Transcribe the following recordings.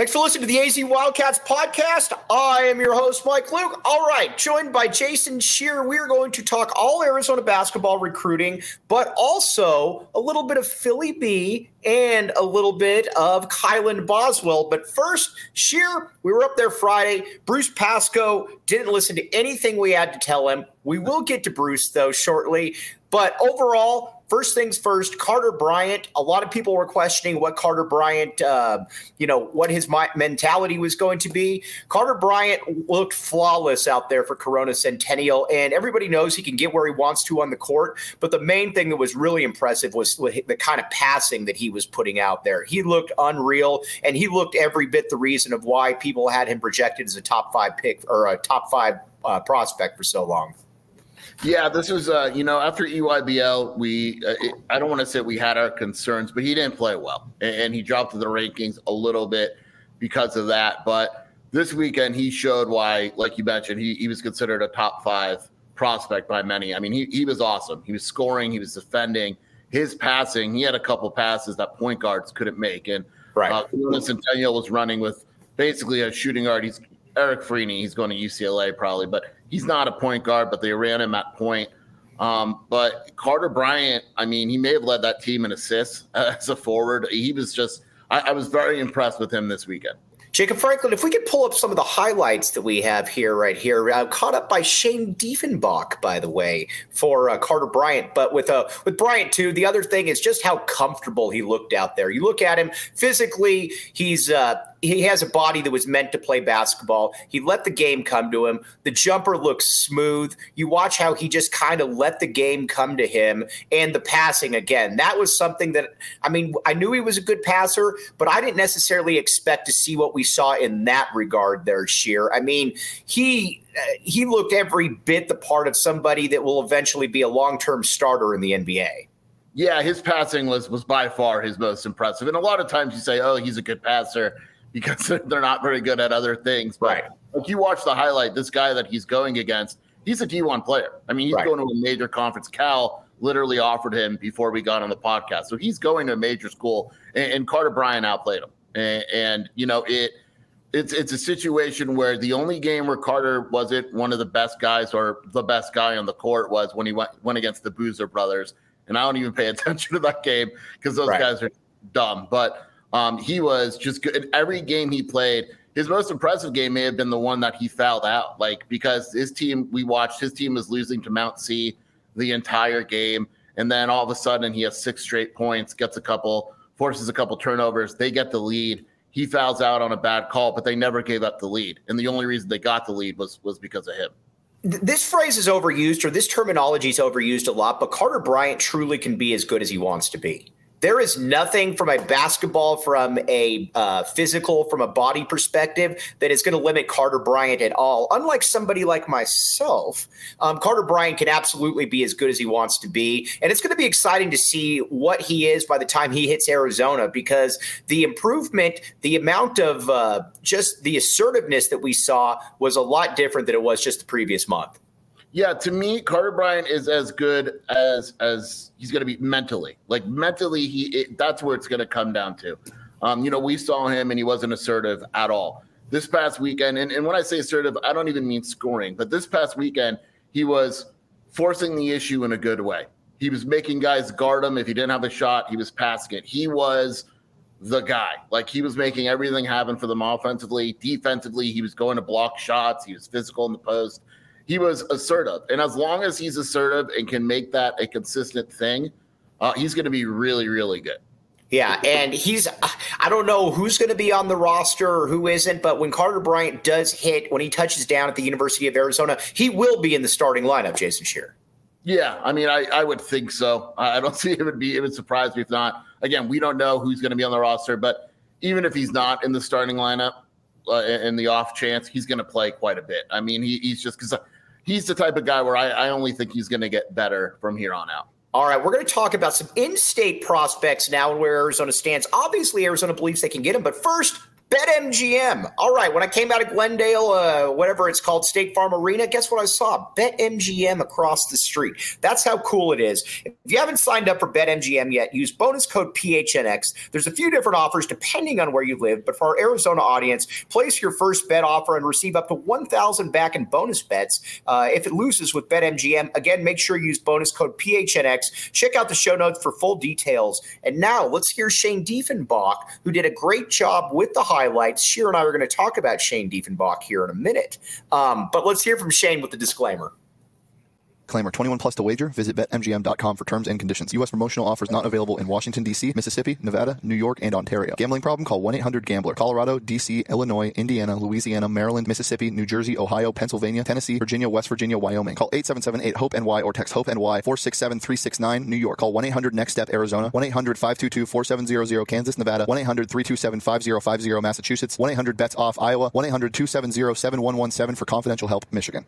Thanks for listening to the AZ Wildcats podcast. I am your host, Mike Luke. All right, joined by Jason Scheer, we are going to talk all Arizona basketball recruiting, but also a little bit of Philly B and a little bit of Kylan Boswell. But first, Scheer, we were up there Friday. Bruce Pascoe didn't listen to anything we had to tell him. We will get to Bruce, though, shortly. But overall, first things first, Carter Bryant, a lot of people were questioning what Carter Bryant, what his mentality was going to be. Carter Bryant looked flawless out there for Corona Centennial, and everybody knows he can get where he wants to on the court. But the main thing that was really impressive was the kind of passing that he was putting out there. He looked unreal, and he looked every bit the reason of why people had him projected as a top 5 pick or a top 5 prospect for so long. Yeah, this was, after EYBL, I don't want to say we had our concerns, but he didn't play well. And he dropped to the rankings a little bit because of that. But this weekend, he showed why, like you mentioned, he was considered a top 5 prospect by many. I mean, he was awesome. He was scoring. He was defending. His passing, he had a couple passes that point guards couldn't make. And Centennial was running with basically a shooting guard. He's Eric Freeney. He's going to UCLA probably, but he's not a point guard, but they ran him at point. But Carter Bryant, I mean, he may have led that team in assists as a forward. He was just – I was very impressed with him this weekend. Jacob Franklin, if we could pull up some of the highlights that we have here, caught up by Shane Diefenbach, by the way, for Carter Bryant. But with Bryant, too, the other thing is just how comfortable he looked out there. You look at him physically, he has a body that was meant to play basketball. He let the game come to him. The jumper looks smooth. You watch how he just kind of let the game come to him. And the passing, again, that was something that, I mean, I knew he was a good passer, but I didn't necessarily expect to see what we saw in that regard there, Scheer. I mean, he looked every bit the part of somebody that will eventually be a long-term starter in the NBA. Yeah, his passing was by far his most impressive. And a lot of times you say, oh, he's a good passer, because they're not very good at other things. But Like you watch the highlight, this guy that he's going against, he's a D1 player. I mean, he's going to a major conference. Cal literally offered him before we got on the podcast. So he's going to a major school, and Carter Bryant outplayed him. And it's a situation where the only game where Carter wasn't one of the best guys or the best guy on the court was when he went against the Boozer brothers. And I don't even pay attention to that game because those guys are dumb. But he was just good. In every game he played, his most impressive game may have been the one that he fouled out, because his team was losing to Mount C the entire game. And then all of a sudden he has 6 straight points, forces a couple turnovers. They get the lead. He fouls out on a bad call, but they never gave up the lead. And the only reason they got the lead was because of him. This phrase is overused, or this terminology is overused a lot, but Carter Bryant truly can be as good as he wants to be. There is nothing from a basketball, from a physical, from a body perspective that is going to limit Carter Bryant at all. Unlike somebody like myself, Carter Bryant can absolutely be as good as he wants to be. And it's going to be exciting to see what he is by the time he hits Arizona, because the improvement, the amount of just the assertiveness that we saw was a lot different than it was just the previous month. Yeah, to me, Carter Bryant is as good as he's going to be mentally. Like mentally, that's where it's going to come down to. We saw him and he wasn't assertive at all. This past weekend, and when I say assertive, I don't even mean scoring, but this past weekend, he was forcing the issue in a good way. He was making guys guard him. If he didn't have a shot, he was passing it. He was the guy. Like, he was making everything happen for them offensively. Defensively, he was going to block shots. He was physical in the post. He was assertive. And as long as he's assertive and can make that a consistent thing, he's going to be really, really good. Yeah, and I don't know who's going to be on the roster or who isn't, but when Carter Bryant does hit, when he touches down at the University of Arizona, he will be in the starting lineup, Jason Scheer. Yeah, I mean, I would think so. I don't see it would surprise me if not. Again, we don't know who's going to be on the roster, but even if he's not in the starting lineup, in the off chance, he's going to play quite a bit. I mean, he's just because he's the type of guy where I only think he's going to get better from here on out. All right, we're going to talk about some in-state prospects now and where Arizona stands. Obviously, Arizona believes they can get him, but first, BetMGM. All right, when I came out of Glendale, whatever it's called, State Farm Arena, guess what I saw? BetMGM across the street. That's how cool it is. If you haven't signed up for BetMGM yet, use bonus code PHNX. There's a few different offers depending on where you live, but for our Arizona audience, place your first bet offer and receive up to $1,000 back in bonus bets if it loses with BetMGM. Again, make sure you use bonus code PHNX. Check out the show notes for full details. And now let's hear Shane Diefenbach, who did a great job with the highlights. Sheer and I are going to talk about Shane Diefenbach here in a minute. But let's hear from Shane with the disclaimer. Disclaimer, 21 plus to wager. Visit BetMGM.com for terms and conditions. U.S. promotional offers not available in Washington, D.C., Mississippi, Nevada, New York, and Ontario. Gambling problem? Call 1-800-GAMBLER. Colorado, D.C., Illinois, Indiana, Louisiana, Maryland, Mississippi, New Jersey, Ohio, Pennsylvania, Tennessee, Virginia, West Virginia, Wyoming. Call 877-8-HOPE-NY or text HOPE-NY 467-369, New York. Call 1-800-NEXT-STEP, Arizona. 1-800-522-4700, Kansas, Nevada. 1-800-327-5050, Massachusetts. 1-800-BETS-OFF, Iowa. 1-800-270-7117 for confidential help, Michigan.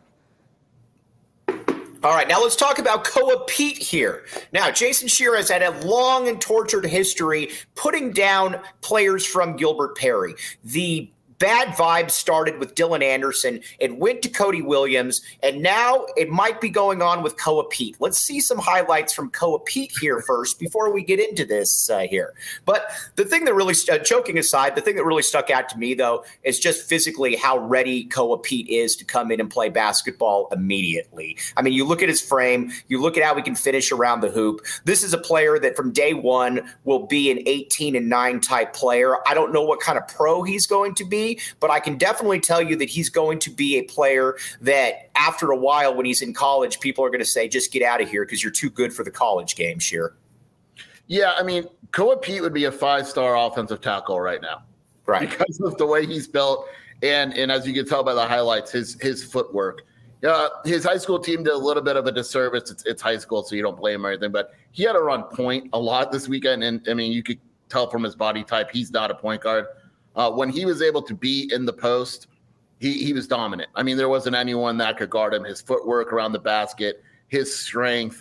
All right, now let's talk about Koa Pete here. Now, Jason Scheer has had a long and tortured history putting down players from Gilbert Perry. The bad vibes started with Dylan Anderson. It went to Cody Williams, and now it might be going on with Koa Pete. Let's see some highlights from Koa Pete here first before we get into this here. But the thing that really, joking aside, the thing that really stuck out to me, though, is just physically how ready Koa Pete is to come in and play basketball immediately. I mean, you look at his frame, you look at how he can finish around the hoop. This is a player that from day one will be an 18-9 type player. I don't know what kind of pro he's going to be, but I can definitely tell you that he's going to be a player that after a while when he's in college, people are going to say, just get out of here because you're too good for the college game, Scheer. Yeah, I mean, Koa Pete would be a 5-star offensive tackle right now. Right. Because of the way he's built. And as you can tell by the highlights, his footwork. His high school team did a little bit of a disservice. It's high school, so you don't blame him or anything. But he had to run point a lot this weekend. And, I mean, you could tell from his body type, he's not a point guard. When he was able to be in the post, he was dominant. I mean, there wasn't anyone that could guard him. His footwork around the basket, his strength,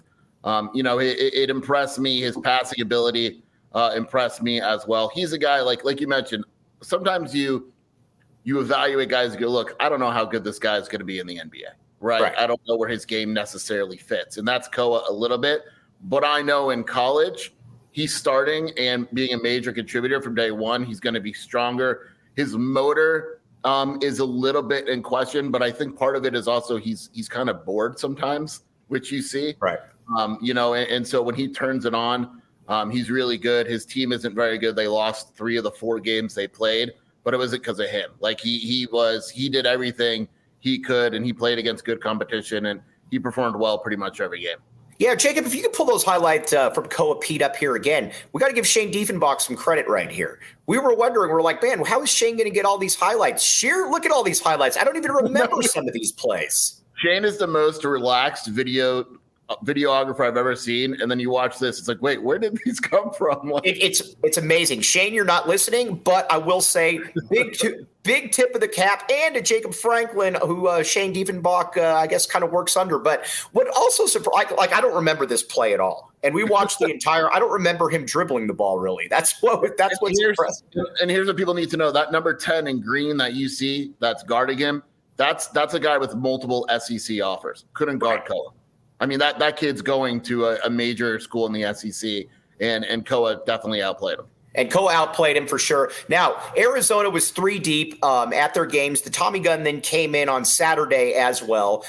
it impressed me. His passing ability impressed me as well. He's a guy, like you mentioned, sometimes you evaluate guys and go, look, I don't know how good this guy is going to be in the NBA, right? I don't know where his game necessarily fits. And that's Koa a little bit. But I know in college, he's starting and being a major contributor from day one. He's going to be stronger. His motor is a little bit in question, but I think part of it is also he's kind of bored sometimes, which you see. Right. And so when he turns it on, he's really good. His team isn't very good. They lost 3 of the 4 games they played, but it wasn't because of him. Like he did everything he could, and he played against good competition, and he performed well pretty much every game. Yeah, Jacob, if you could pull those highlights from Koa Pete up here again, we got to give Shane Diefenbach some credit right here. We were wondering, we're like, man, how is Shane going to get all these highlights? Scheer, look at all these highlights. I don't even remember some of these plays. Shane is the most relaxed videographer I've ever seen, and then you watch this, it's like, wait, where did these come from? It's amazing. Shane, you're not listening, but I will say big tip of the cap, and to Jacob Franklin, who Shane Diefenbach I guess kind of works under. But what also surprised, I don't remember this play at all, and we watched the entire. I don't remember him dribbling the ball really. That's what's impressive. And here's what people need to know: that number 10 in green that you see that's guarding him, that's a guy with multiple SEC offers. Couldn't guard Koa. I mean, that kid's going to a major school in the SEC, and Koa definitely outplayed him. And Koa outplayed him for sure. Now, Arizona was 3 deep at their games. The Tommy gun then came in on Saturday as well.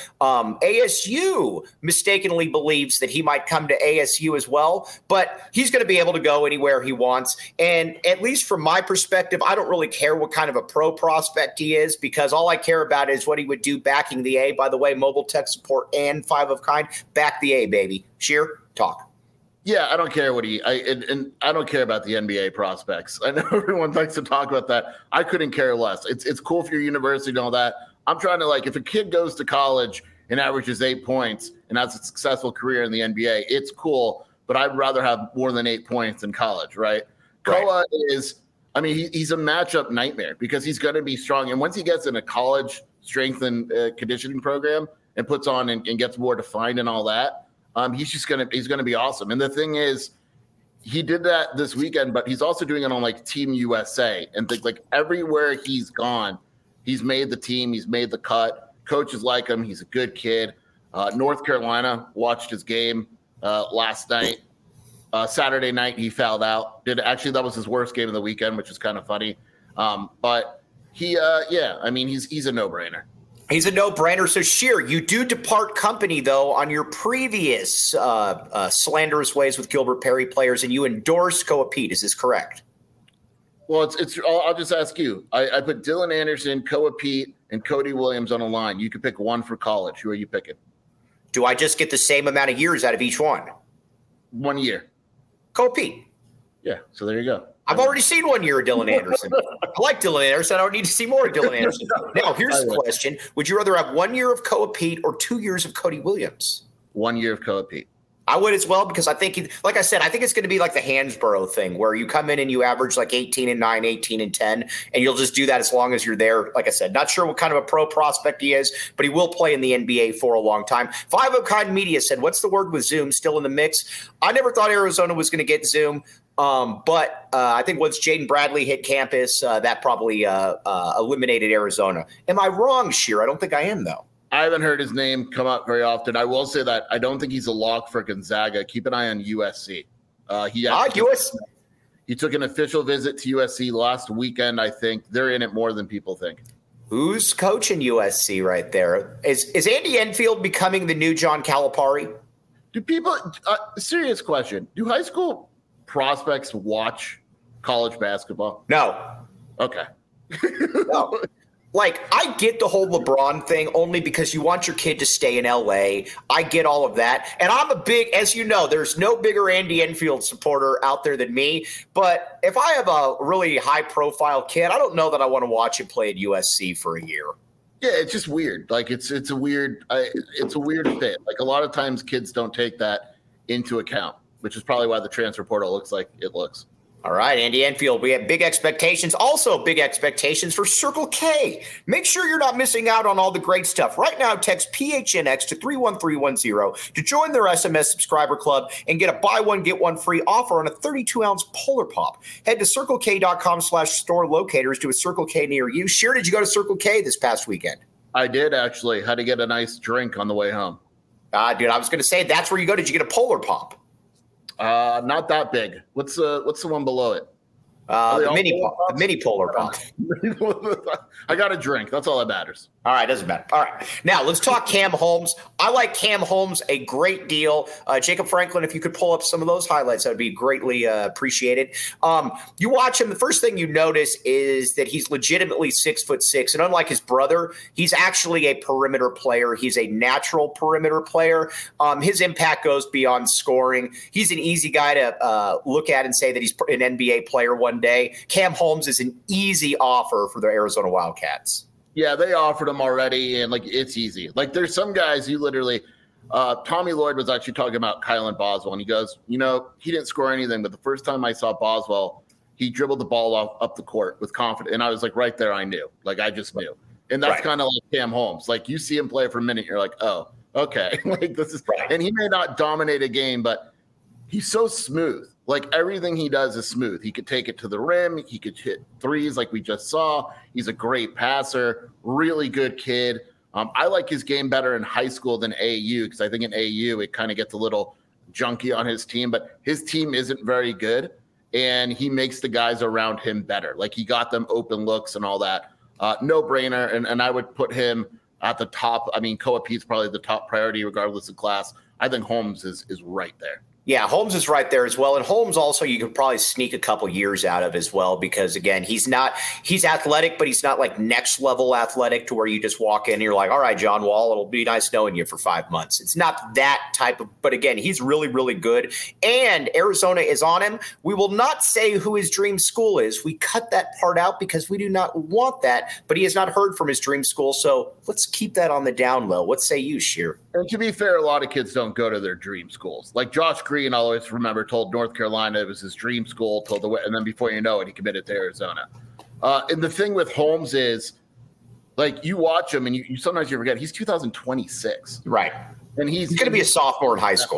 ASU mistakenly believes that he might come to ASU as well, but he's going to be able to go anywhere he wants. And at least from my perspective, I don't really care what kind of a pro prospect he is, because all I care about is what he would do backing the A. By the way, mobile tech support and 5 of kind. Back the A, baby. Scheer, talk. Yeah, I don't care what and I don't care about the NBA prospects. I know everyone likes to talk about that. I couldn't care less. It's cool for your university and all that. I'm trying to, if a kid goes to college and averages 8 points and has a successful career in the NBA, it's cool, but I'd rather have more than 8 points in college, right? Koa is, he's a matchup nightmare because he's going to be strong. And once he gets in a college strength and conditioning program and puts on and gets more defined and all that, he's going to be awesome. And the thing is, he did that this weekend, but he's also doing it on like Team USA and think like everywhere he's gone, he's made the team, he's made the cut. Coaches like him. He's a good kid. North Carolina, watched his game last night. Saturday night, he fouled out. That was his worst game of the weekend, which is kind of funny. But he's a no-brainer. He's a no-brainer. So, Scheer, you do depart company, though, on your previous slanderous ways with Gilbert Perry players, and you endorse Koa Pete. Is this correct? Well, I'll just ask you. I put Dylan Anderson, Koa Pete, and Cody Williams on a line. You could pick one for college. Who are you picking? Do I just get the same amount of years out of each one? 1 year. Koa Pete. Yeah, so there you go. I've already seen 1 year of Dylan Anderson. I like Dylan Anderson. I don't need to see more of Dylan Anderson. Now, here's the question. Would you rather have 1 year of Koa Pete or 2 years of Cody Williams? 1 year of Koa Pete. I would as well, because I think, like I said, I think it's going to be like the Hansborough thing where you come in and you average like 18-9, 18-10, and you'll just do that as long as you're there. Like I said, not sure what kind of a pro prospect he is, but he will play in the NBA for a long time. Five of Kind Media said, what's the word with Zoom still in the mix? I never thought Arizona was going to get Zoom. But I think once Jaden Bradley hit campus, that probably eliminated Arizona. Am I wrong, Scheer? I don't think I am, though. I haven't heard his name come up very often. I will say that I don't think he's a lock for Gonzaga. Keep an eye on USC. He took an official visit to USC last weekend, I think. They're in it more than people think. Who's coaching USC right there? Is Andy Enfield becoming the new John Calipari? Do people serious question. Do high school prospects watch college basketball? No. Okay. No. Like, I get the whole LeBron thing only because you want your kid to stay in L.A. I get all of that. And I'm a big, as you know, there's no bigger Andy Enfield supporter out there than me. But if I have a really high-profile kid, I don't know that I want to watch him play at USC for a year. Yeah, it's just weird. Like, it's a weird fit. Like, a lot of times kids don't take that into account, which is probably why the transfer portal looks like it looks. All right, Andy Enfield, we have big expectations. Also big expectations for Circle K. Make sure you're not missing out on all the great stuff. Right now, text PHNX to 31310 to join their SMS subscriber club and get a buy one, get one free offer on a 32-ounce Polar Pop. Head to CircleK.com/store locators to a Circle K near you. Scheer, did you go to Circle K this past weekend? I did, actually. Had to get a nice drink on the way home. Dude, I was going to say, that's where you go. Did you get a Polar Pop? Not that big. What's the one below it? The mini Polar Pop. I got a drink. That's all that matters. All right, doesn't matter. All right, now let's talk Cam Holmes. I like Cam Holmes a great deal. Jacob Franklin, if you could pull up some of those highlights, that would be greatly appreciated. You watch him, the first thing you notice is that he's legitimately 6'6", and unlike his brother, he's actually a perimeter player. He's a natural perimeter player. His impact goes beyond scoring. He's an easy guy to look at and say that he's an NBA player one day. Cam Holmes is an easy offer for the Arizona Wildcats. Yeah, they offered him already, and, like, it's easy. Like, there's some guys you literally Tommy Lloyd was actually talking about Kylan Boswell, and he goes, he didn't score anything, but the first time I saw Boswell, he dribbled the ball up the court with confidence, and I was like, right there, I knew. Like, I just knew. And that's kind of like Cam Holmes. Like, you see him play for a minute, you're like, oh, okay. Like, this is – and he may not dominate a game, but he's so smooth. Like, everything he does is smooth. He could take it to the rim. He could hit threes like we just saw. He's a great passer, really good kid. I like his game better in high school than AAU because I think in AAU it kind of gets a little junky on his team. But his team isn't very good, and he makes the guys around him better. Like, he got them open looks and all that. No-brainer, and I would put him at the top. I mean, Koa Pete's probably the top priority regardless of class. I think Holmes is right there. Yeah, Holmes is right there as well. And Holmes also you could probably sneak a couple years out of as well because, again, he's athletic, but he's not like next level athletic to where you just walk in and you're like, all right, John Wall, it'll be nice knowing you for 5 months. It's not that type of – but, again, he's really, really good. And Arizona is on him. We will not say who his dream school is. We cut that part out because we do not want that, but he has not heard from his dream school. So let's keep that on the down low. What say you, Scheer? And to be fair, a lot of kids don't go to their dream schools. Like Josh Green, I'll always remember, told North Carolina it was his dream school, and then before you know it, he committed to Arizona. And the thing with Holmes is, like, you watch him and you sometimes you forget he's 2026. Right. And he's going to be a sophomore in high school.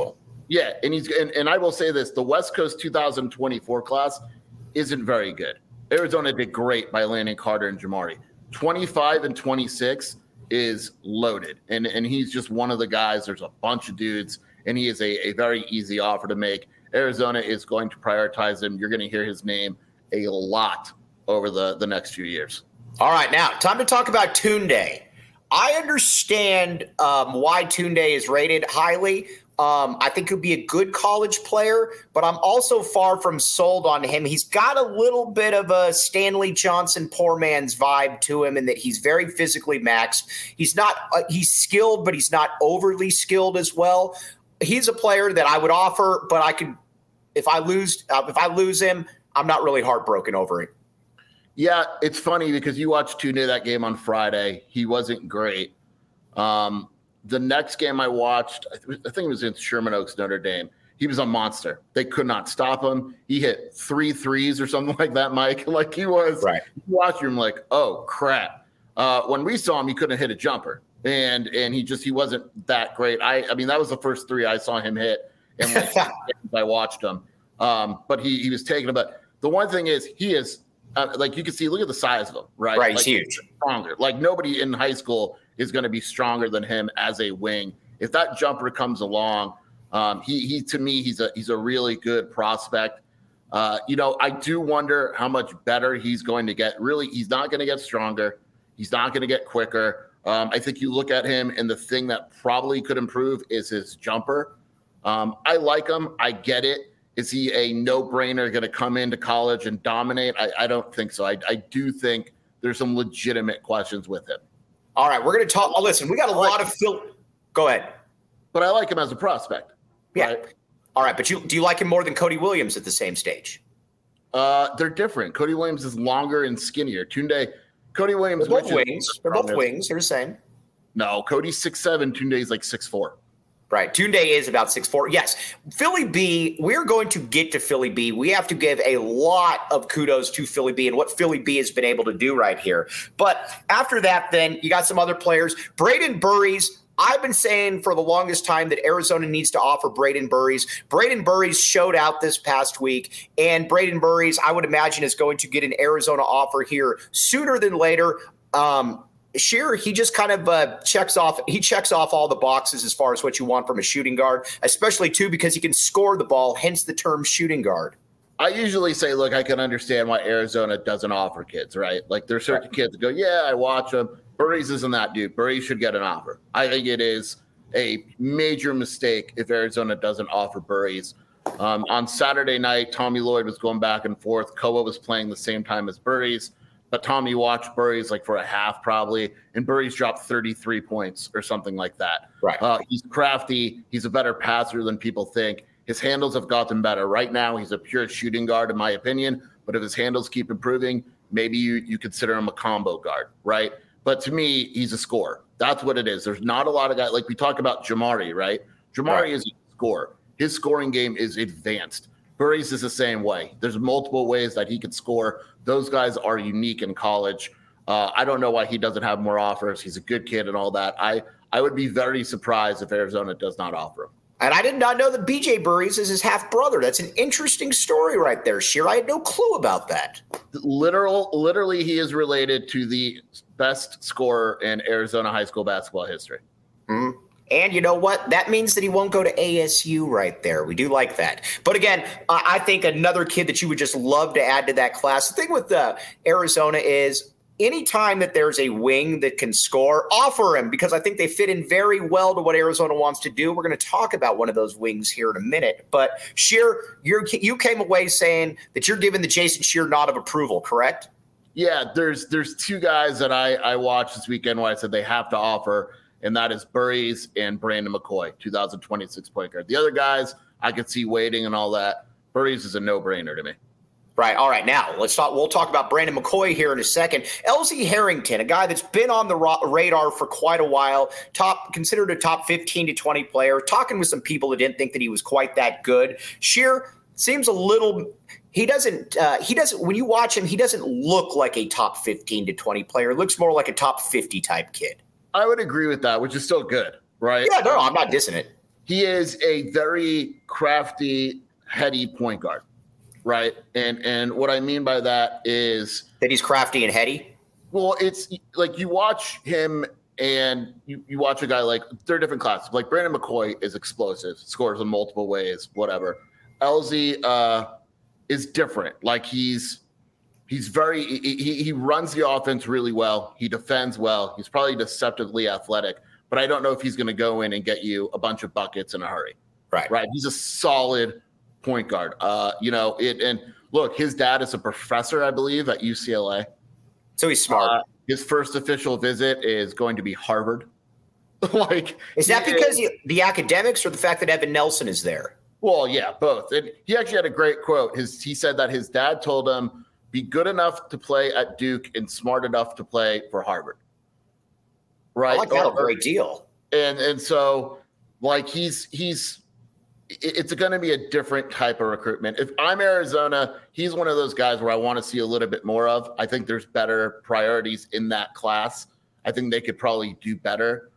Yeah, and I will say this: the West Coast 2024 class isn't very good. Arizona did great by landing Carter and Jamari. 25 and 26 is loaded, and he's just one of the guys. There's a bunch of dudes, and he is a very easy offer to make. Arizona is going to prioritize him. You're going to hear his name a lot over the next few years. All right, now time to talk about Tunde. I understand why Tunde is rated highly. I think he'll be a good college player, but I'm also far from sold on him. He's got a little bit of a Stanley Johnson poor man's vibe to him in that he's very physically maxed. He's not he's skilled, but he's not overly skilled as well. He's a player that I would offer, but I could if I lose him, I'm not really heartbroken over it. Yeah, it's funny because you watched Tunde that game on Friday. He wasn't great. The next game I watched, I think it was in Sherman Oaks, Notre Dame. He was a monster. They could not stop him. He hit 3 threes or something like that, Mike. Like he was, right. You watch him like, oh, crap. When we saw him, he couldn't hit a jumper. And he wasn't that great. I mean, that was the first 3 I saw him hit. And like, I watched him. But he was taking it. But the one thing is he is, like you can see, look at the size of him, right? Right, like, he's huge. Stronger. Like nobody in high school is going to be stronger than him as a wing. If that jumper comes along, he to me, he's a really good prospect. I do wonder how much better he's going to get. Really, he's not going to get stronger. He's not going to get quicker. I think you look at him, and the thing that probably could improve is his jumper. I like him. I get it. Is he a no-brainer going to come into college and dominate? I don't think so. I do think there's some legitimate questions with him. All right, we're going to talk. Oh, listen, we got a lot of Go ahead. But I like him as a prospect. Yeah. Right? All right, but do you like him more than Cody Williams at the same stage? They're different. Cody Williams is longer and skinnier. Cody Williams. They're both wings. They're both wings. They're the same. No, Cody's 6'7". Tunde's like 6'4". Right. Tunde is about 6'4". Yes. Philly B, we're going to get to Philly B. We have to give a lot of kudos to Philly B and what Philly B has been able to do right here. But after that, then you got some other players. Braden Burries. I've been saying for the longest time that Arizona needs to offer Braden Burries. Braden Burries showed out this past week, and Braden Burries, I would imagine, is going to get an Arizona offer here sooner than later. Shearer, he just kind of checks off all the boxes as far as what you want from a shooting guard, especially, too, because he can score the ball, hence the term shooting guard. I usually say, look, I can understand why Arizona doesn't offer kids, right? Like there's certain kids that go, yeah, I watch them. Burries isn't that dude. Burries should get an offer. I think it is a major mistake if Arizona doesn't offer Burries. On Saturday night, Tommy Lloyd was going back and forth. Koa was playing the same time as Burries. But Tommy watched Burries like for a half probably, and Burries dropped 33 points or something like that. Right. He's crafty. He's a better passer than people think. His handles have gotten better. Right now, he's a pure shooting guard, in my opinion. But if his handles keep improving, maybe you consider him a combo guard, right? But to me, he's a scorer. That's what it is. There's not a lot of guys. Like we talk about Jamari, right? Jamari is a scorer. His scoring game is advanced. Burries is the same way. There's multiple ways that he could score. Those guys are unique in college. I don't know why he doesn't have more offers. He's a good kid and all that. I would be very surprised if Arizona does not offer him. And I did not know that BJ Burries is his half-brother. That's an interesting story right there, Sheer. I had no clue about that. Literally, he is related to the best scorer in Arizona high school basketball history. Mm-hmm. And you know what? That means that he won't go to ASU right there. We do like that. But again, I think another kid that you would just love to add to that class. The thing with Arizona is anytime that there's a wing that can score, offer him, because I think they fit in very well to what Arizona wants to do. We're going to talk about one of those wings here in a minute. But Sheer, you came away saying that you're giving the Jason Sheer nod of approval, correct? Yeah, there's 2 guys that I watched this weekend where I said they have to offer, and that is Burries and Brandon McCoy, 2026 point guard. The other guys, I could see waiting and all that. Burries is a no-brainer to me. Right. All right. Now we'll talk about Brandon McCoy here in a second. LZ Harrington, a guy that's been on the radar for quite a while, considered a top 15 to 20 player, talking with some people that didn't think that he was quite that good. Sheer seems a little, he doesn't, when you watch him, he doesn't look like a top 15 to 20 player. It looks more like a top 50 type kid. I would agree with that, which is still good, right? Yeah, no, I'm not dissing it. he is a very crafty, heady point guard, right? And what I mean by that is that he's crafty and heady. Well, it's like you watch him and you watch a guy like they're different classes. Like Brandon McCoy is explosive, scores in multiple ways, whatever. LZ is different. Like he's very he runs the offense really well. He defends well. He's probably deceptively athletic, but I don't know if he's going to go in and get you a bunch of buckets in a hurry. Right. He's a solid point guard. And look, his dad is a professor, I believe, at UCLA. So he's smart. His first official visit is going to be Harvard. Is that because the academics or the fact that Evan Nelson is there? Well, yeah, both. And he actually had a great quote. He said that his dad told him, be good enough to play at Duke and smart enough to play for Harvard. Right? I like that a great deal. And so, like, it's going to be a different type of recruitment. If I'm Arizona, he's one of those guys where I want to see a little bit more of. I think there's better priorities in that class. I think they could probably do better.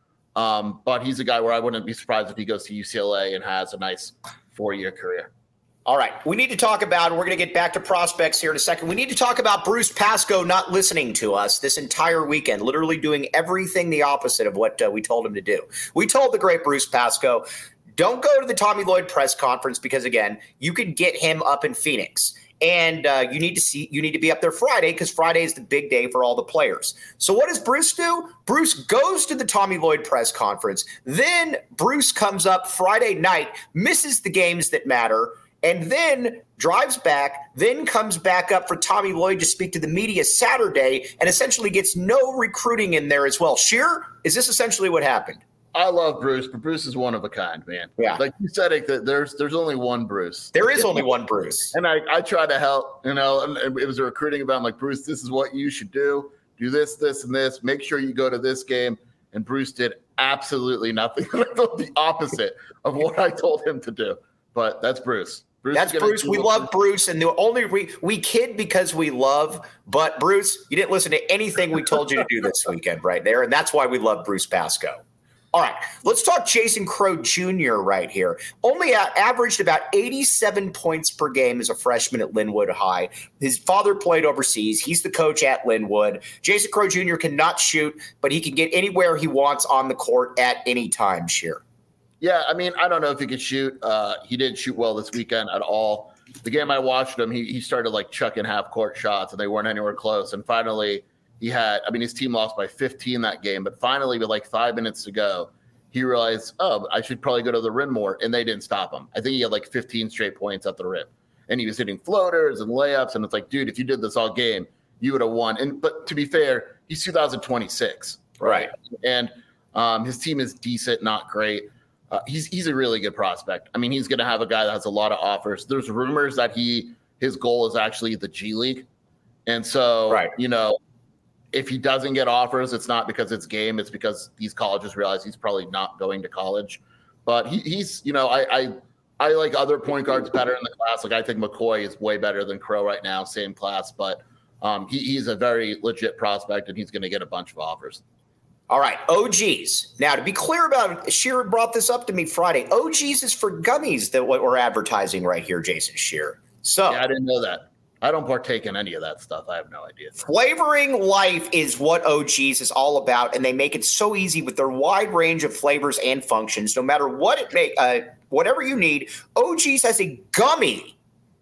But he's a guy where I wouldn't be surprised if he goes to UCLA and has a nice 4-year career. All right. We need to talk about, we're going to get back to prospects here in a second. We need to talk about Bruce Pascoe not listening to us this entire weekend, literally doing everything the opposite of what we told him to do. We told the great Bruce Pascoe, don't go to the Tommy Lloyd press conference because, again, you could get him up in Phoenix. And you need to be up there Friday because Friday is the big day for all the players. So what does Bruce do? Bruce goes to the Tommy Lloyd press conference. Then Bruce comes up Friday night, misses the games that matter, and then drives back, then comes back up for Tommy Lloyd to speak to the media Saturday and essentially gets no recruiting in there as well. Shearer, is this essentially what happened? I love Bruce, but Bruce is one of a kind, man. Yeah. Like you said, that there's only one Bruce. There is only one Bruce. And I try to help, and it was a recruiting about, I'm like, Bruce, this is what you should do. Do this, this, and this. Make sure you go to this game. And Bruce did absolutely nothing. The opposite of what I told him to do. But that's Bruce. That's Bruce. We love Bruce, and the only we kid because we love. But Bruce, you didn't listen to anything we told you to do this weekend, right there, and that's why we love Bruce Pascoe. All right, let's talk Jason Crow Jr. right here. Only averaged about 87 points per game as a freshman at Linwood High. His father played overseas. He's the coach at Linwood. Jason Crow Jr. cannot shoot, but he can get anywhere he wants on the court at any time, Sheer. Yeah, I mean, I don't know if he could shoot. He didn't shoot well this weekend at all. The game I watched him, he started like chucking half-court shots, and they weren't anywhere close. And finally, his team lost by 15 that game. But finally, with like 5 minutes to go, he realized, I should probably go to the rim more. And they didn't stop him. I think he had like 15 straight points at the rim. And he was hitting floaters and layups. And it's like, dude, if you did this all game, you would have won. But to be fair, he's 2026. Right. And his team is decent, not great. He's a really good prospect. I mean, he's going to have a guy that has a lot of offers. There's rumors that his goal is actually the G League. And so, if he doesn't get offers, it's not because it's game. It's because these colleges realize he's probably not going to college. But he's I like other point guards better in the class. Like I think McCoy is way better than Crow right now, same class. But he's a very legit prospect, and he's going to get a bunch of offers. All right, OGs. Now, to be clear about it, Shearer brought this up to me Friday. OGs is for gummies that what we're advertising right here, Jason Shearer. So yeah, I didn't know that. I don't partake in any of that stuff. I have no idea. Flavoring life is what OGs is all about, and they make it so easy with their wide range of flavors and functions. No matter what whatever you need, OGs has a gummy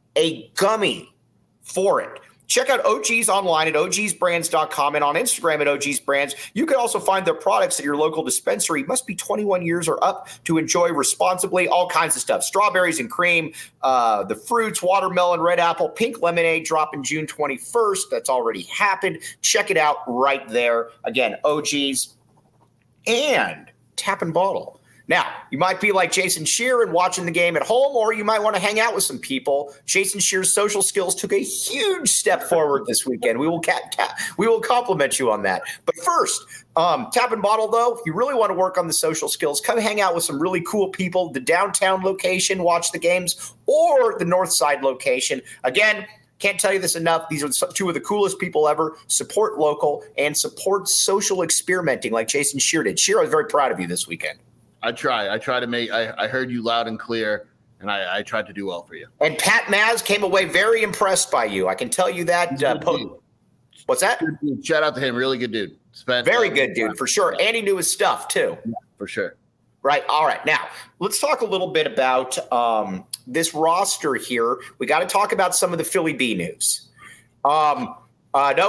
for it. Check out OGs online at ogsbrands.com and on Instagram at ogsbrands. You can also find their products at your local dispensary. Must be 21 years or up to enjoy responsibly. All kinds of stuff. Strawberries and cream, the fruits, watermelon, red apple, pink lemonade dropping June 21st. That's already happened. Check it out right there. Again, OGs and Tap and Bottle. Now, you might be like Jason Shearer and watching the game at home, or you might want to hang out with some people. Jason Shearer's social skills took a huge step forward this weekend. We will compliment you on that. But first, Tap and Bottle, though, if you really want to work on the social skills, come hang out with some really cool people. The downtown location, watch the games, or the north side location. Again, can't tell you this enough. These are two of the coolest people ever. Support local and support social experimenting like Jason Shearer did. Shearer, I was very proud of you this weekend. I try. I try to make. I heard you loud and clear, and I tried to do well for you. And Pat Maz came away very impressed by you. I can tell you that. What's that? Shout out to him. Really good dude. Very good dude, for sure. And he knew his stuff, too. Yeah, for sure. Right. All right. Now, let's talk a little bit about this roster here. We got to talk about some of the Philly B news. I'm not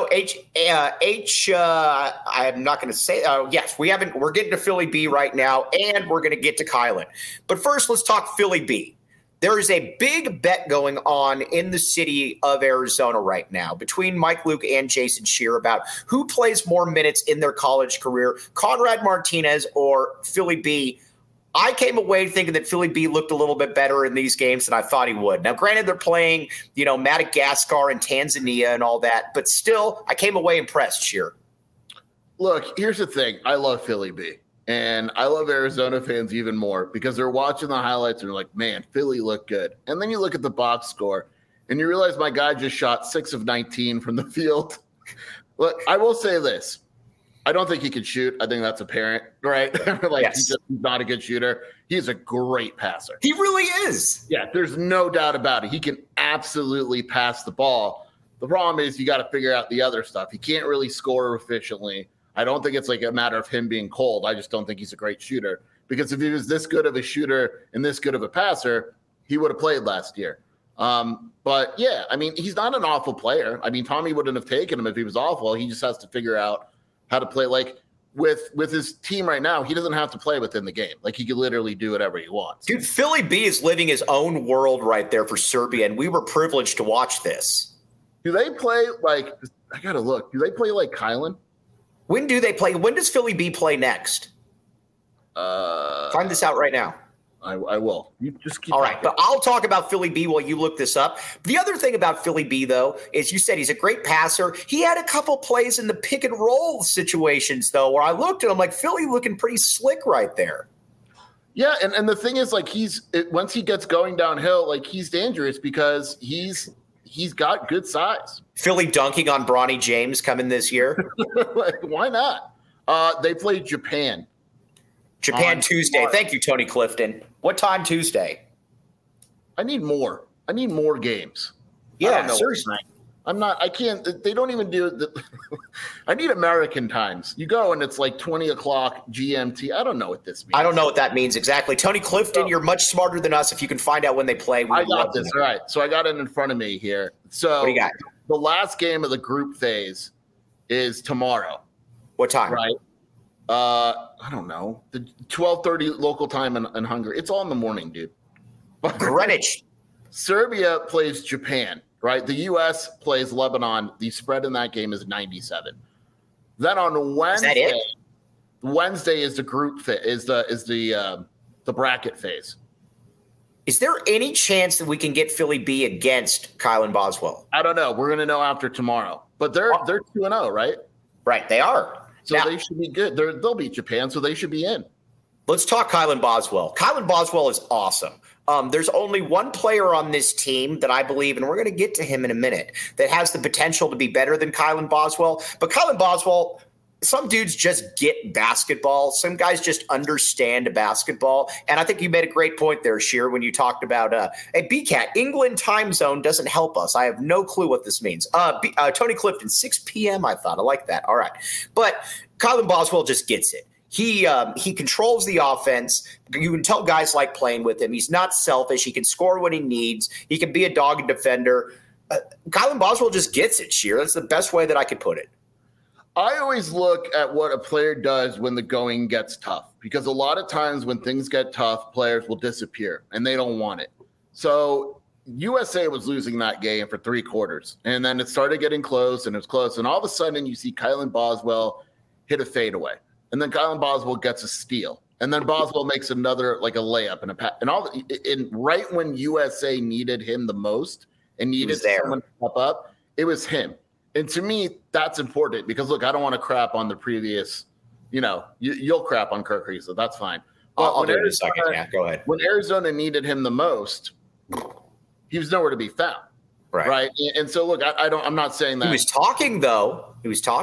going to say. Yes, we haven't. We're getting to Philly B right now, and we're going to get to Kylan. But first, let's talk Philly B. There is a big bet going on in the city of Arizona right now between Mike Luke and Jason Scheer about who plays more minutes in their college career, Conrad Martinez or Philly B. I came away thinking that Philly B looked a little bit better in these games than I thought he would. Now, granted, they're playing, Madagascar and Tanzania and all that, but still, I came away impressed, Scheer. Look, here's the thing. I love Philly B. And I love Arizona fans even more because they're watching the highlights and they're like, man, Philly looked good. And then you look at the box score and you realize my guy just shot 6 of 19 from the field. Look, I will say this. I don't think he can shoot. I think that's apparent, right? He's not a good shooter. He's a great passer. He really is. Yeah, there's no doubt about it. He can absolutely pass the ball. The problem is you got to figure out the other stuff. He can't really score efficiently. I don't think it's like a matter of him being cold. I just don't think he's a great shooter. Because if he was this good of a shooter and this good of a passer, he would have played last year. But yeah, I mean, he's not an awful player. I mean, Tommy wouldn't have taken him if he was awful. He just has to figure out how to play. Like with his team right now, he doesn't have to play within the game. Like he could literally do whatever he wants. Dude, Philly B is living his own world right there for Serbia, and we were privileged to watch this. Do they play like – I got to look. Do they play like Kylan? When do they play? When does Philly B play next? Find this out right now. I will. You just keep. All right, but I'll talk about Philly B while you look this up. The other thing about Philly B, though, is you said he's a great passer. He had a couple plays in the pick and roll situations, though, where I looked and I'm like, Philly looking pretty slick right there. Yeah, and the thing is, like, once he gets going downhill, like, he's dangerous because he's got good size. Philly dunking on Bronny James coming this year. Like, why not? They play Japan. Japan Tuesday. Thank you, Tony Clifton. What time Tuesday? I need more games. Yeah, seriously. I can't. They don't even do it. I need American times. You go and it's like 20 o'clock GMT. I don't know what this means. I don't know what that means exactly. Tony Clifton, you're much smarter than us. If you can find out when they play. I got this. All right. So I got it in front of me here. So what do you got? The last game of the group phase is tomorrow. What time? Right. I don't know. The 12:30 local time in Hungary. It's all in the morning, dude. Greenwich. Serbia plays Japan, right? The U.S. plays Lebanon. The spread in that game is 97. Then on Wednesday, is that it? Wednesday is the group is the bracket phase. Is there any chance that we can get Philly B against Kylan Boswell? I don't know. We're gonna know after tomorrow. But they're 2-0, right? Right, they are. So now, they should be good. They'll beat Japan, so they should be in. Let's talk Kylan Boswell. Kylan Boswell is awesome. There's only one player on this team that I believe, and we're going to get to him in a minute, that has the potential to be better than Kylan Boswell. But Kylan Boswell, some dudes just get basketball. Some guys just understand basketball. And I think you made a great point there, Scheer, when you talked about BCAT. England time zone doesn't help us. I have no clue what this means. Tony Clifton, 6 p.m., I thought. I like that. All right. But Kylan Boswell just gets it. He controls the offense. You can tell guys like playing with him. He's not selfish. He can score when he needs. He can be a dog and defender. Kylan Boswell just gets it, Scheer. That's the best way that I could put it. I always look at what a player does when the going gets tough, because a lot of times when things get tough, players will disappear and they don't want it. So USA was losing that game for 3 quarters, and then it started getting close, and it was close. And all of a sudden you see Kylan Boswell hit a fadeaway, and then Kylan Boswell gets a steal, and then Boswell makes another, like a layup and a pass. And right when USA needed him the most and needed someone to step up, it was him. And to me, that's important because, look, I don't want to crap on the previous, you'll crap on Kirk Herbstreit. That's fine. But I'll do it in a second. Yeah, go ahead. When Arizona needed him the most, he was nowhere to be found. Right. And so, look, I'm not saying that. He was talking, though. He was talking.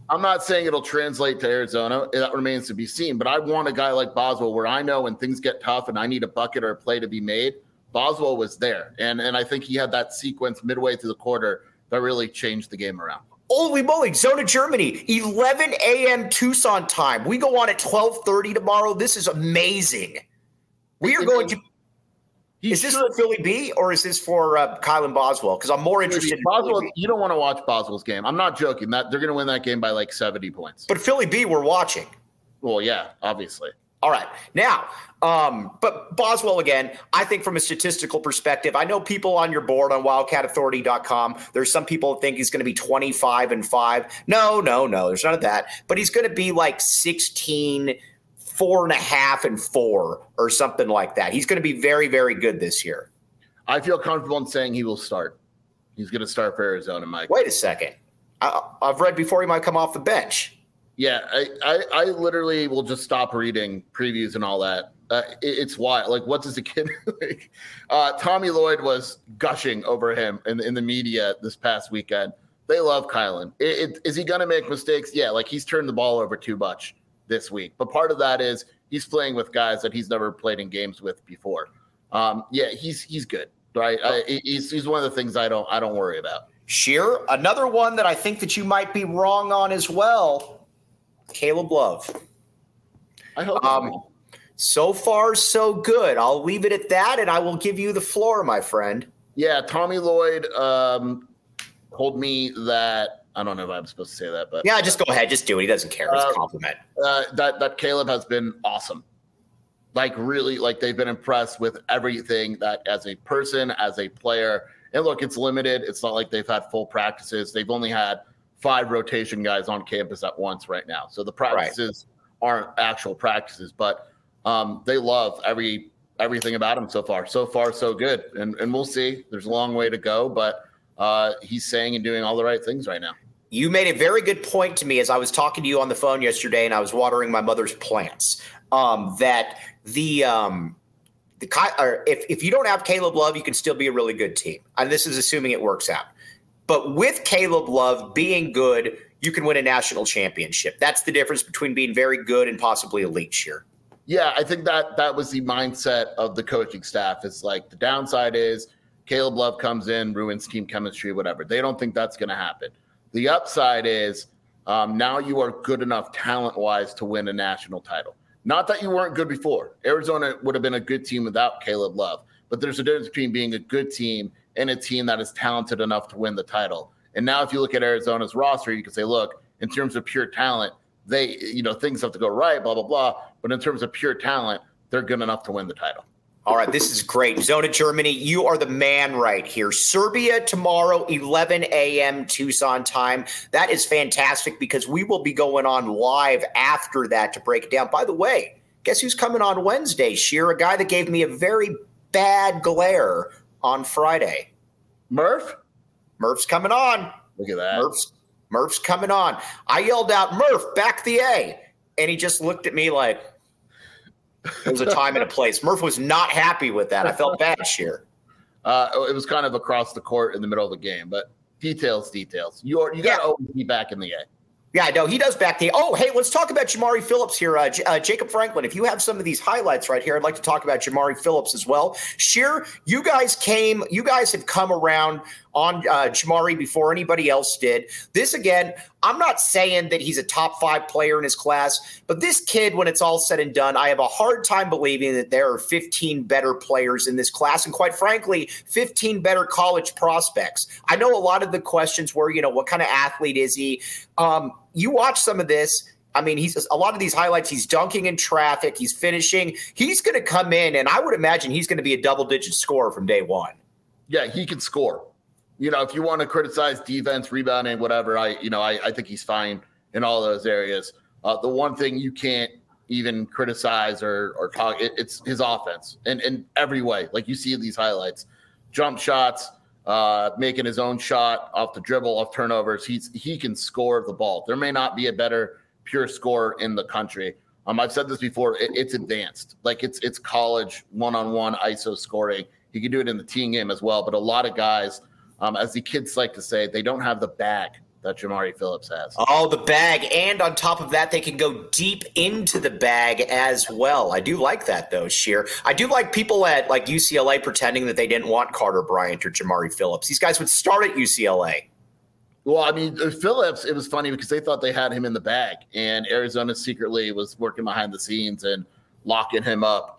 I'm not saying it'll translate to Arizona. That remains to be seen. But I want a guy like Boswell where I know when things get tough and I need a bucket or a play to be made, Boswell was there. And I think he had that sequence midway through the quarter that really changed the game around. Holy moly, Zone of Germany, 11 a.m. Tucson time. We go on at 12:30 tomorrow. This is amazing. We are going to – is this for Philly B or is this for Kylan Boswell? Because I'm more interested in Boswell. You don't want to watch Boswell's game. I'm not joking. They're going to win that game by like 70 points. But Philly B, we're watching. Well, yeah, obviously. All right. Now, but Boswell, again, I think from a statistical perspective, I know people on your board on wildcatauthority.com, there's some people that think he's going to be 25-5. No, there's none of that. But he's going to be like 16, 4.5, and 4 or something like that. He's going to be very, very good this year. I feel comfortable in saying he will start. He's going to start for Arizona, Mike. Wait a second. I've read before he might come off the bench. Yeah, I literally will just stop reading previews and all that. It's wild. Like, what does the kid like? Tommy Lloyd was gushing over him in the media this past weekend. They love Kylan. Is he going to make mistakes? Yeah, like he's turned the ball over too much this week. But part of that is he's playing with guys that he's never played in games with before. Yeah, he's good, right? He's one of the things I don't worry about. Sheer, another one that I think that you might be wrong on as well. Caleb Love. I hope so far, so good. I'll leave it at that, and I will give you the floor, my friend. Yeah, Tommy Lloyd told me that – I don't know if I'm supposed to say that, but – yeah, just go ahead. Just do it. He doesn't care. It's a compliment. That Caleb has been awesome. Like, really, like they've been impressed with everything that as a person, as a player. And, look, it's limited. It's not like they've had full practices. They've only had – 5 rotation guys on campus at once right now. So the practices aren't actual practices, but they love everything about him so far. So far, so good. And we'll see. There's a long way to go, but he's saying and doing all the right things right now. You made a very good point to me as I was talking to you on the phone yesterday and I was watering my mother's plants, that if you don't have Caleb Love, you can still be a really good team. And this is assuming it works out. But with Caleb Love being good, you can win a national championship. That's the difference between being very good and possibly elite here. Yeah, I think that was the mindset of the coaching staff. It's like the downside is Caleb Love comes in, ruins team chemistry, whatever. They don't think that's going to happen. The upside is now you are good enough talent-wise to win a national title. Not that you weren't good before. Arizona would have been a good team without Caleb Love. But there's a difference between being a good team and a team that is talented enough to win the title. And now if you look at Arizona's roster, you can say, look, in terms of pure talent, they, things have to go right, blah, blah, blah. But in terms of pure talent, they're good enough to win the title. All right, this is great. Zone of Germany, you are the man right here. Serbia tomorrow, 11 a.m. Tucson time. That is fantastic because we will be going on live after that to break it down. By the way, guess who's coming on Wednesday, Sheer? A guy that gave me a very bad glare on Friday. Murph's coming on. Look at that. Murph's coming on. I yelled out, Murph, back the A. And he just looked at me like there was a time and a place. Murph was not happy with that. I felt bad, Sheer. It was kind of across the court in the middle of the game, but details. You got to always be back in the A. Yeah, no, he does back the – oh, hey, let's talk about Jamari Phillips here. Jacob Franklin, if you have some of these highlights right here, I'd like to talk about Jamari Phillips as well. Sheer, you guys have come around on Jamari before anybody else did. This, again, I'm not saying that he's a top 5 player in his class, but this kid, when it's all said and done, I have a hard time believing that there are 15 better players in this class and, quite frankly, 15 better college prospects. I know a lot of the questions were, what kind of athlete is he? You watch some of this. I mean, a lot of these highlights, he's dunking in traffic. He's finishing. He's going to come in, and I would imagine he's going to be a double-digit scorer from day one. Yeah, he can score. If you want to criticize defense, rebounding, whatever, I think he's fine in all those areas. The one thing you can't even criticize or talk, it's his offense in every way. Like you see these highlights, jump shots, making his own shot off the dribble, off turnovers. He can score the ball. There may not be a better pure scorer in the country. I've said this before. It's advanced. Like it's college one-on-one ISO scoring. He can do it in the team game as well. But a lot of guys, as the kids like to say, they don't have the bag that Jamari Phillips has. Oh, the bag. And on top of that, they can go deep into the bag as well. I do like that, though, Sheer. I do like people at like UCLA pretending that they didn't want Carter Bryant or Jamari Phillips. These guys would start at UCLA. Well, I mean, Phillips, it was funny because they thought they had him in the bag, and Arizona secretly was working behind the scenes and locking him up.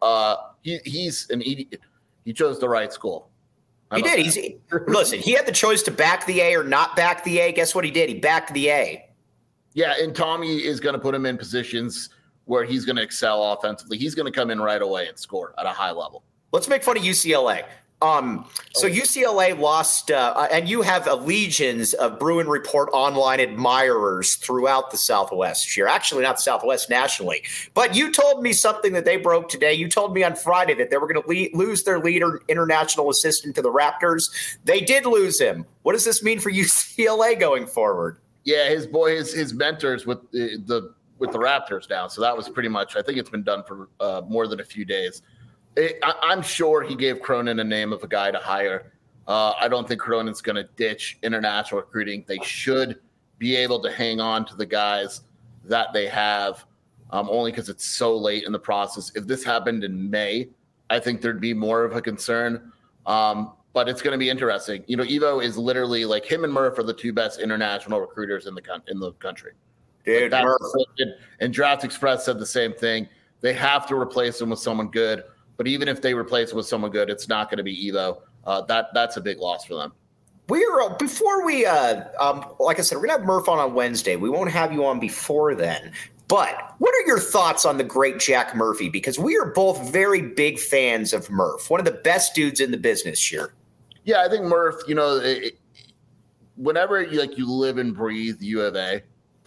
He chose the right school. He did. Listen, he had the choice to back the A or not back the A. Guess what he did? He backed the A. Yeah, and Tommy is going to put him in positions where he's going to excel offensively. He's going to come in right away and score at a high level. Let's make fun of UCLA. So UCLA lost, and you have legions of Bruin Report online admirers throughout the Southwest. You're actually not the Southwest nationally, but you told me something that they broke today. You told me on Friday that they were going to lose their leader, international assistant to the Raptors. They did lose him. What does this mean for UCLA going forward? Yeah, his mentors with the Raptors now. So that was pretty much. I think it's been done for more than a few days. I'm sure he gave Cronin a name of a guy to hire. I don't think Cronin's going to ditch international recruiting. They should be able to hang on to the guys that they have, only because it's so late in the process. If this happened in May, I think there'd be more of a concern. But it's going to be interesting. You know, Evo is literally like him and Murph are the two best international recruiters in the country. Dude, like and Draft Express said the same thing. They have to replace him with someone good. But even if they replace him with someone good, it's not going to be Evo. That's a big loss for them. Before we, like I said, we're going to have Murph on Wednesday. We won't have you on before then. But what are your thoughts on the great Jack Murphy? Because we are both very big fans of Murph, one of the best dudes in the business here. Yeah, I think Murph, you know, whenever you live and breathe U of A,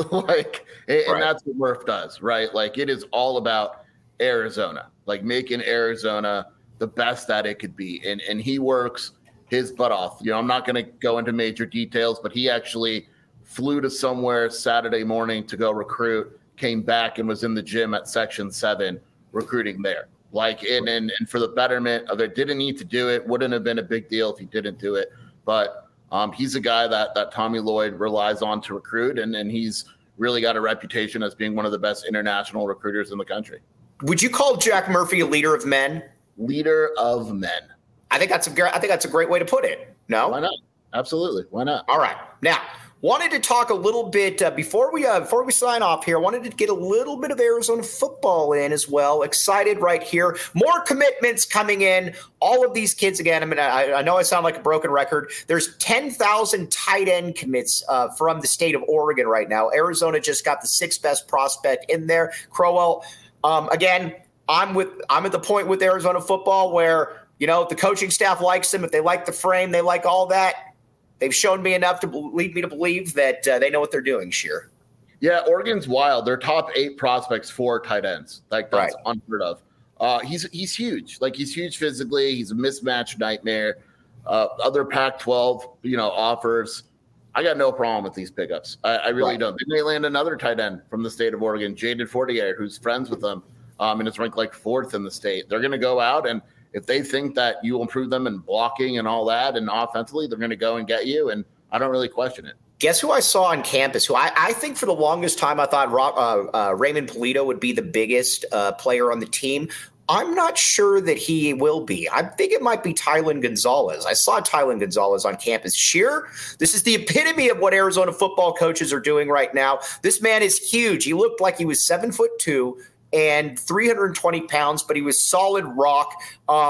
and that's what Murph does, right? Like it is all about Arizona, like making Arizona the best that it could be. And he works his butt off. You know, I'm not going to go into major details, but he actually flew to somewhere Saturday morning to go recruit, came back and was in the gym at Section 7 recruiting there. And for the betterment of it, didn't need to do it. Wouldn't have been a big deal if he didn't do it. But he's a guy that Tommy Lloyd relies on to recruit. And he's really got a reputation as being one of the best international recruiters in the country. Would you call Jack Murphy a leader of men? Leader of men. I think that's a great way to put it. No? Why not? Absolutely. Why not? All right. Now, wanted to talk a little bit before we sign off here. Wanted to get a little bit of Arizona football in as well. Excited right here. More commitments coming in. All of these kids again. I mean, I know I sound like a broken record. There's 10,000 tight end commits from the state of Oregon right now. Arizona just got the sixth best prospect in there. Crowell. Again, I'm at the point with Arizona football where, you know, the coaching staff likes them. If they like the frame, they like all that. They've shown me enough to lead me to believe that they know what they're doing, Sheer. Yeah, Oregon's wild. Their top 8 prospects, 4 tight ends. Like that's unheard of. He's huge. Like he's huge physically. He's a mismatch nightmare. Other Pac-12, offers. I got no problem with these pickups. I really don't. They may land another tight end from the state of Oregon, Jaden Fortier, who's friends with them, and is ranked like 4th in the state. They're going to go out, and if they think that you will improve them in blocking and all that and offensively, they're going to go and get you, and I don't really question it. Guess who I saw on campus, who I think for the longest time I thought Raymond Polito would be the biggest player on the team. I'm not sure that he will be. I think it might be Tylen Gonzalez. I saw Tylen Gonzalez on campus. Sheer, this is the epitome of what Arizona football coaches are doing right now. This man is huge. He looked like he was 7'2" and 320 pounds, but he was solid rock.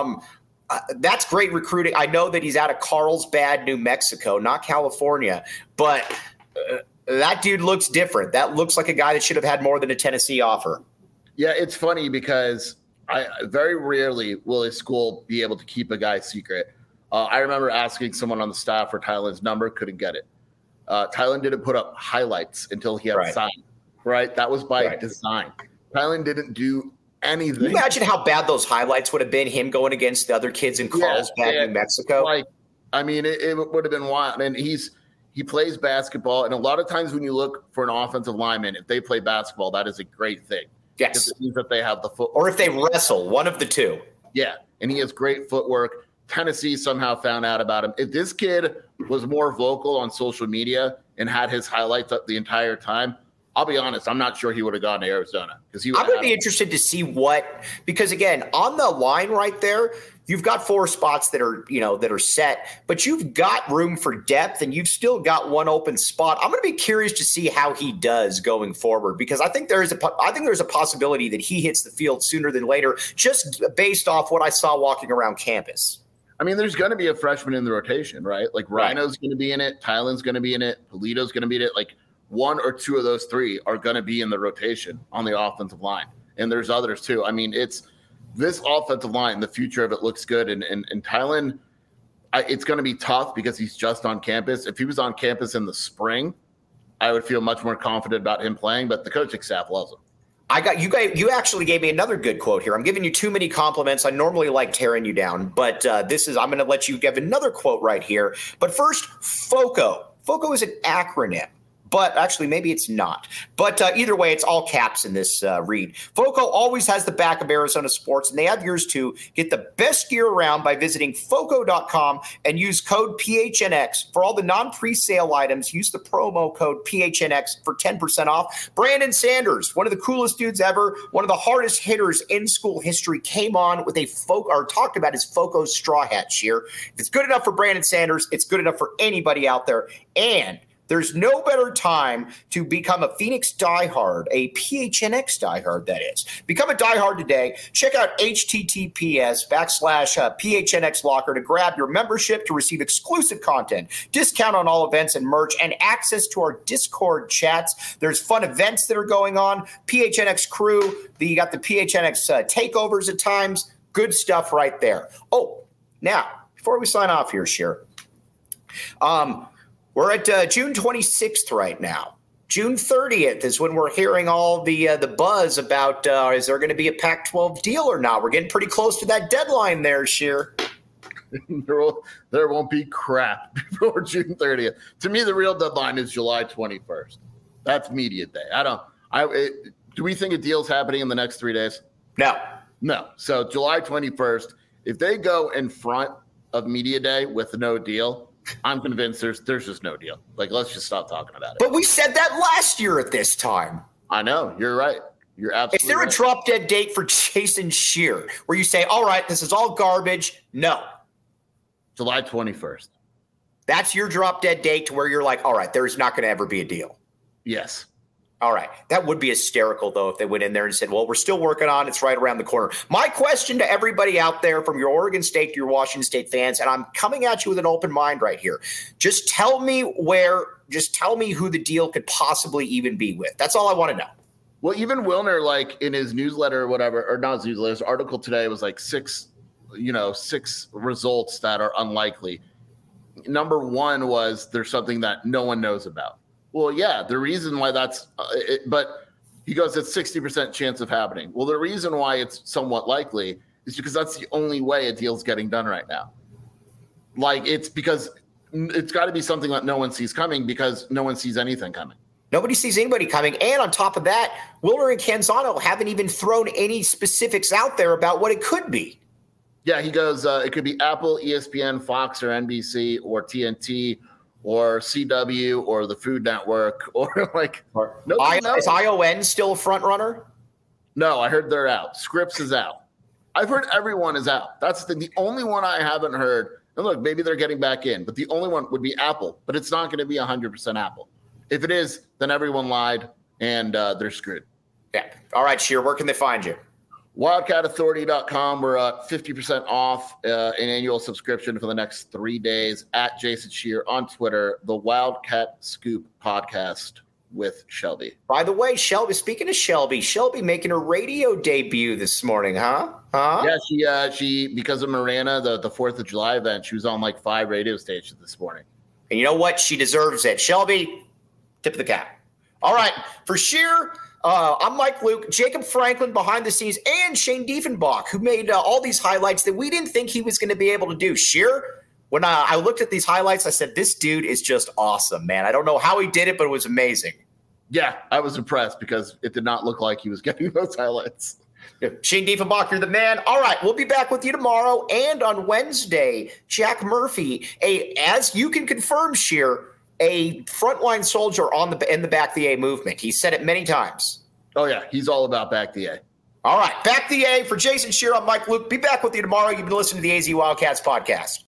That's great recruiting. I know that he's out of Carlsbad, New Mexico, not California, but that dude looks different. That looks like a guy that should have had more than a Tennessee offer. Yeah, it's funny because I very rarely will a school be able to keep a guy's secret. I remember asking someone on the staff for Tylen's number, couldn't get it. Tylen didn't put up highlights until he had signed, right? That was by design. Tylen didn't do anything. Can you imagine how bad those highlights would have been, him going against the other kids in Carlsbad, New Mexico? It would have been wild. And he plays basketball, and a lot of times when you look for an offensive lineman, if they play basketball, that is a great thing. Yes. Because it means that they have the footwork. Or if they wrestle, one of the two. Yeah, and he has great footwork. Tennessee somehow found out about him. If this kid was more vocal on social media and had his highlights up the entire time, I'll be honest, I'm not sure he would have gone to Arizona because I'm going to be interested to see because again, on the line right there, you've got 4 spots that are set, but you've got room for depth and you've still got one open spot. I'm going to be curious to see how he does going forward, because I think there's a possibility that he hits the field sooner than later, just based off what I saw walking around campus. I mean, there's going to be a freshman in the rotation, right? Like Rhino's going to be in it. Tylen's going to be in it. Polito's going to be in it. Like, 1 or 2 of those 3 are going to be in the rotation on the offensive line. And there's others too. I mean, it's this offensive line, the future of it looks good. And Tylen, it's going to be tough because he's just on campus. If he was on campus in the spring, I would feel much more confident about him playing, but the coaching staff loves him. You actually gave me another good quote here. I'm giving you too many compliments. I normally like tearing you down, but I'm going to let you give another quote right here. But first, FOCO. FOCO is an acronym. But actually, maybe it's not. But either way, it's all caps in this read. FOCO always has the back of Arizona sports, and they have yours too. Get the best gear around by visiting FOCO.com and use code PHNX. For all the non-presale items, use the promo code PHNX for 10% off. Brandon Sanders, one of the coolest dudes ever, one of the hardest hitters in school history, came on with talked about his FOCO straw hat cheer. If it's good enough for Brandon Sanders, it's good enough for anybody out there. And there's no better time to become a Phoenix diehard, a PHNX diehard, that is. Become a diehard today. Check out https://PHNX Locker to grab your membership to receive exclusive content, discount on all events and merch, and access to our Discord chats. There's fun events that are going on. PHNX crew, you got the PHNX takeovers at times. Good stuff right there. Oh, now, before we sign off here, Sheer, we're at June 26th right now. June 30th is when we're hearing all the buzz about is there going to be a Pac-12 deal or not? We're getting pretty close to that deadline there, Sheer. There won't be crap before June 30th. To me, the real deadline is July 21st. That's media day. Do we think a deal's happening in the next 3 days? No. So July 21st, if they go in front of media day with no deal, I'm convinced there's just no deal. Like, let's just stop talking about it. But we said that last year at this time. I know. You're right. You're absolutely Is there right. a drop-dead date for Jason Scheer where you say, all right, this is all garbage? No. July 21st. That's your drop-dead date to where you're like, all right, there's not going to ever be a deal. Yes. All right. That would be hysterical, though, if they went in there and said, well, we're still working on it. It's right around the corner. My question to everybody out there, from your Oregon State to your Washington State fans, and I'm coming at you with an open mind right here. Just tell me who the deal could possibly even be with. That's all I want to know. Well, even Wilner, like in his newsletter or whatever, or not his newsletter, his article today was like six results that are unlikely. Number 1 was there's something that no one knows about. Well, yeah, the reason why but he goes, it's 60% chance of happening. Well, the reason why it's somewhat likely is because that's the only way a deal's getting done right now. Like, it's because it's got to be something that no one sees coming, because no one sees anything coming. Nobody sees anybody coming. And on top of that, Wilner and Canzano haven't even thrown any specifics out there about what it could be. Yeah, he goes, it could be Apple, ESPN, Fox, or NBC, or TNT, or CW, or the Food Network, or like. Is ION still a front runner? No, I heard they're out. Scripps is out. I've heard everyone is out. That's the only one I haven't heard. And look, maybe they're getting back in, but the only one would be Apple. But it's not going to be 100% Apple. If it is, then everyone lied, and they're screwed. Yeah. All right, Sheer, where can they find you? WildcatAuthority.com. We're at 50% off an annual subscription for the next 3 days. At Jason Scheer on Twitter. The Wildcat Scoop podcast with Shelby. By the way, Shelby, speaking of Shelby making her radio debut this morning, huh? Yeah, she because of Marana, the 4th of July event, she was on like 5 radio stations this morning. And you know what? She deserves it. Shelby, tip of the cap. All right, for Scheer, I'm Mike Luke, Jacob Franklin behind the scenes, and Shane Diefenbach, who made all these highlights that we didn't think he was going to be able to do. Scheer, when I looked at these highlights, I said, this dude is just awesome, man. I don't know how he did it, but it was amazing. Yeah, I was impressed because it did not look like he was getting those highlights. Shane Diefenbach, you're the man. All right, we'll be back with you tomorrow and on Wednesday. Jack Murphy, as you can confirm, Scheer, a frontline soldier in the back the A movement. He said it many times. Oh, yeah. He's all about back the A. All right. Back the A. For Jason Scheer, I'm Mike Luke. Be back with you tomorrow. You've been listening to the AZ Wildcats podcast.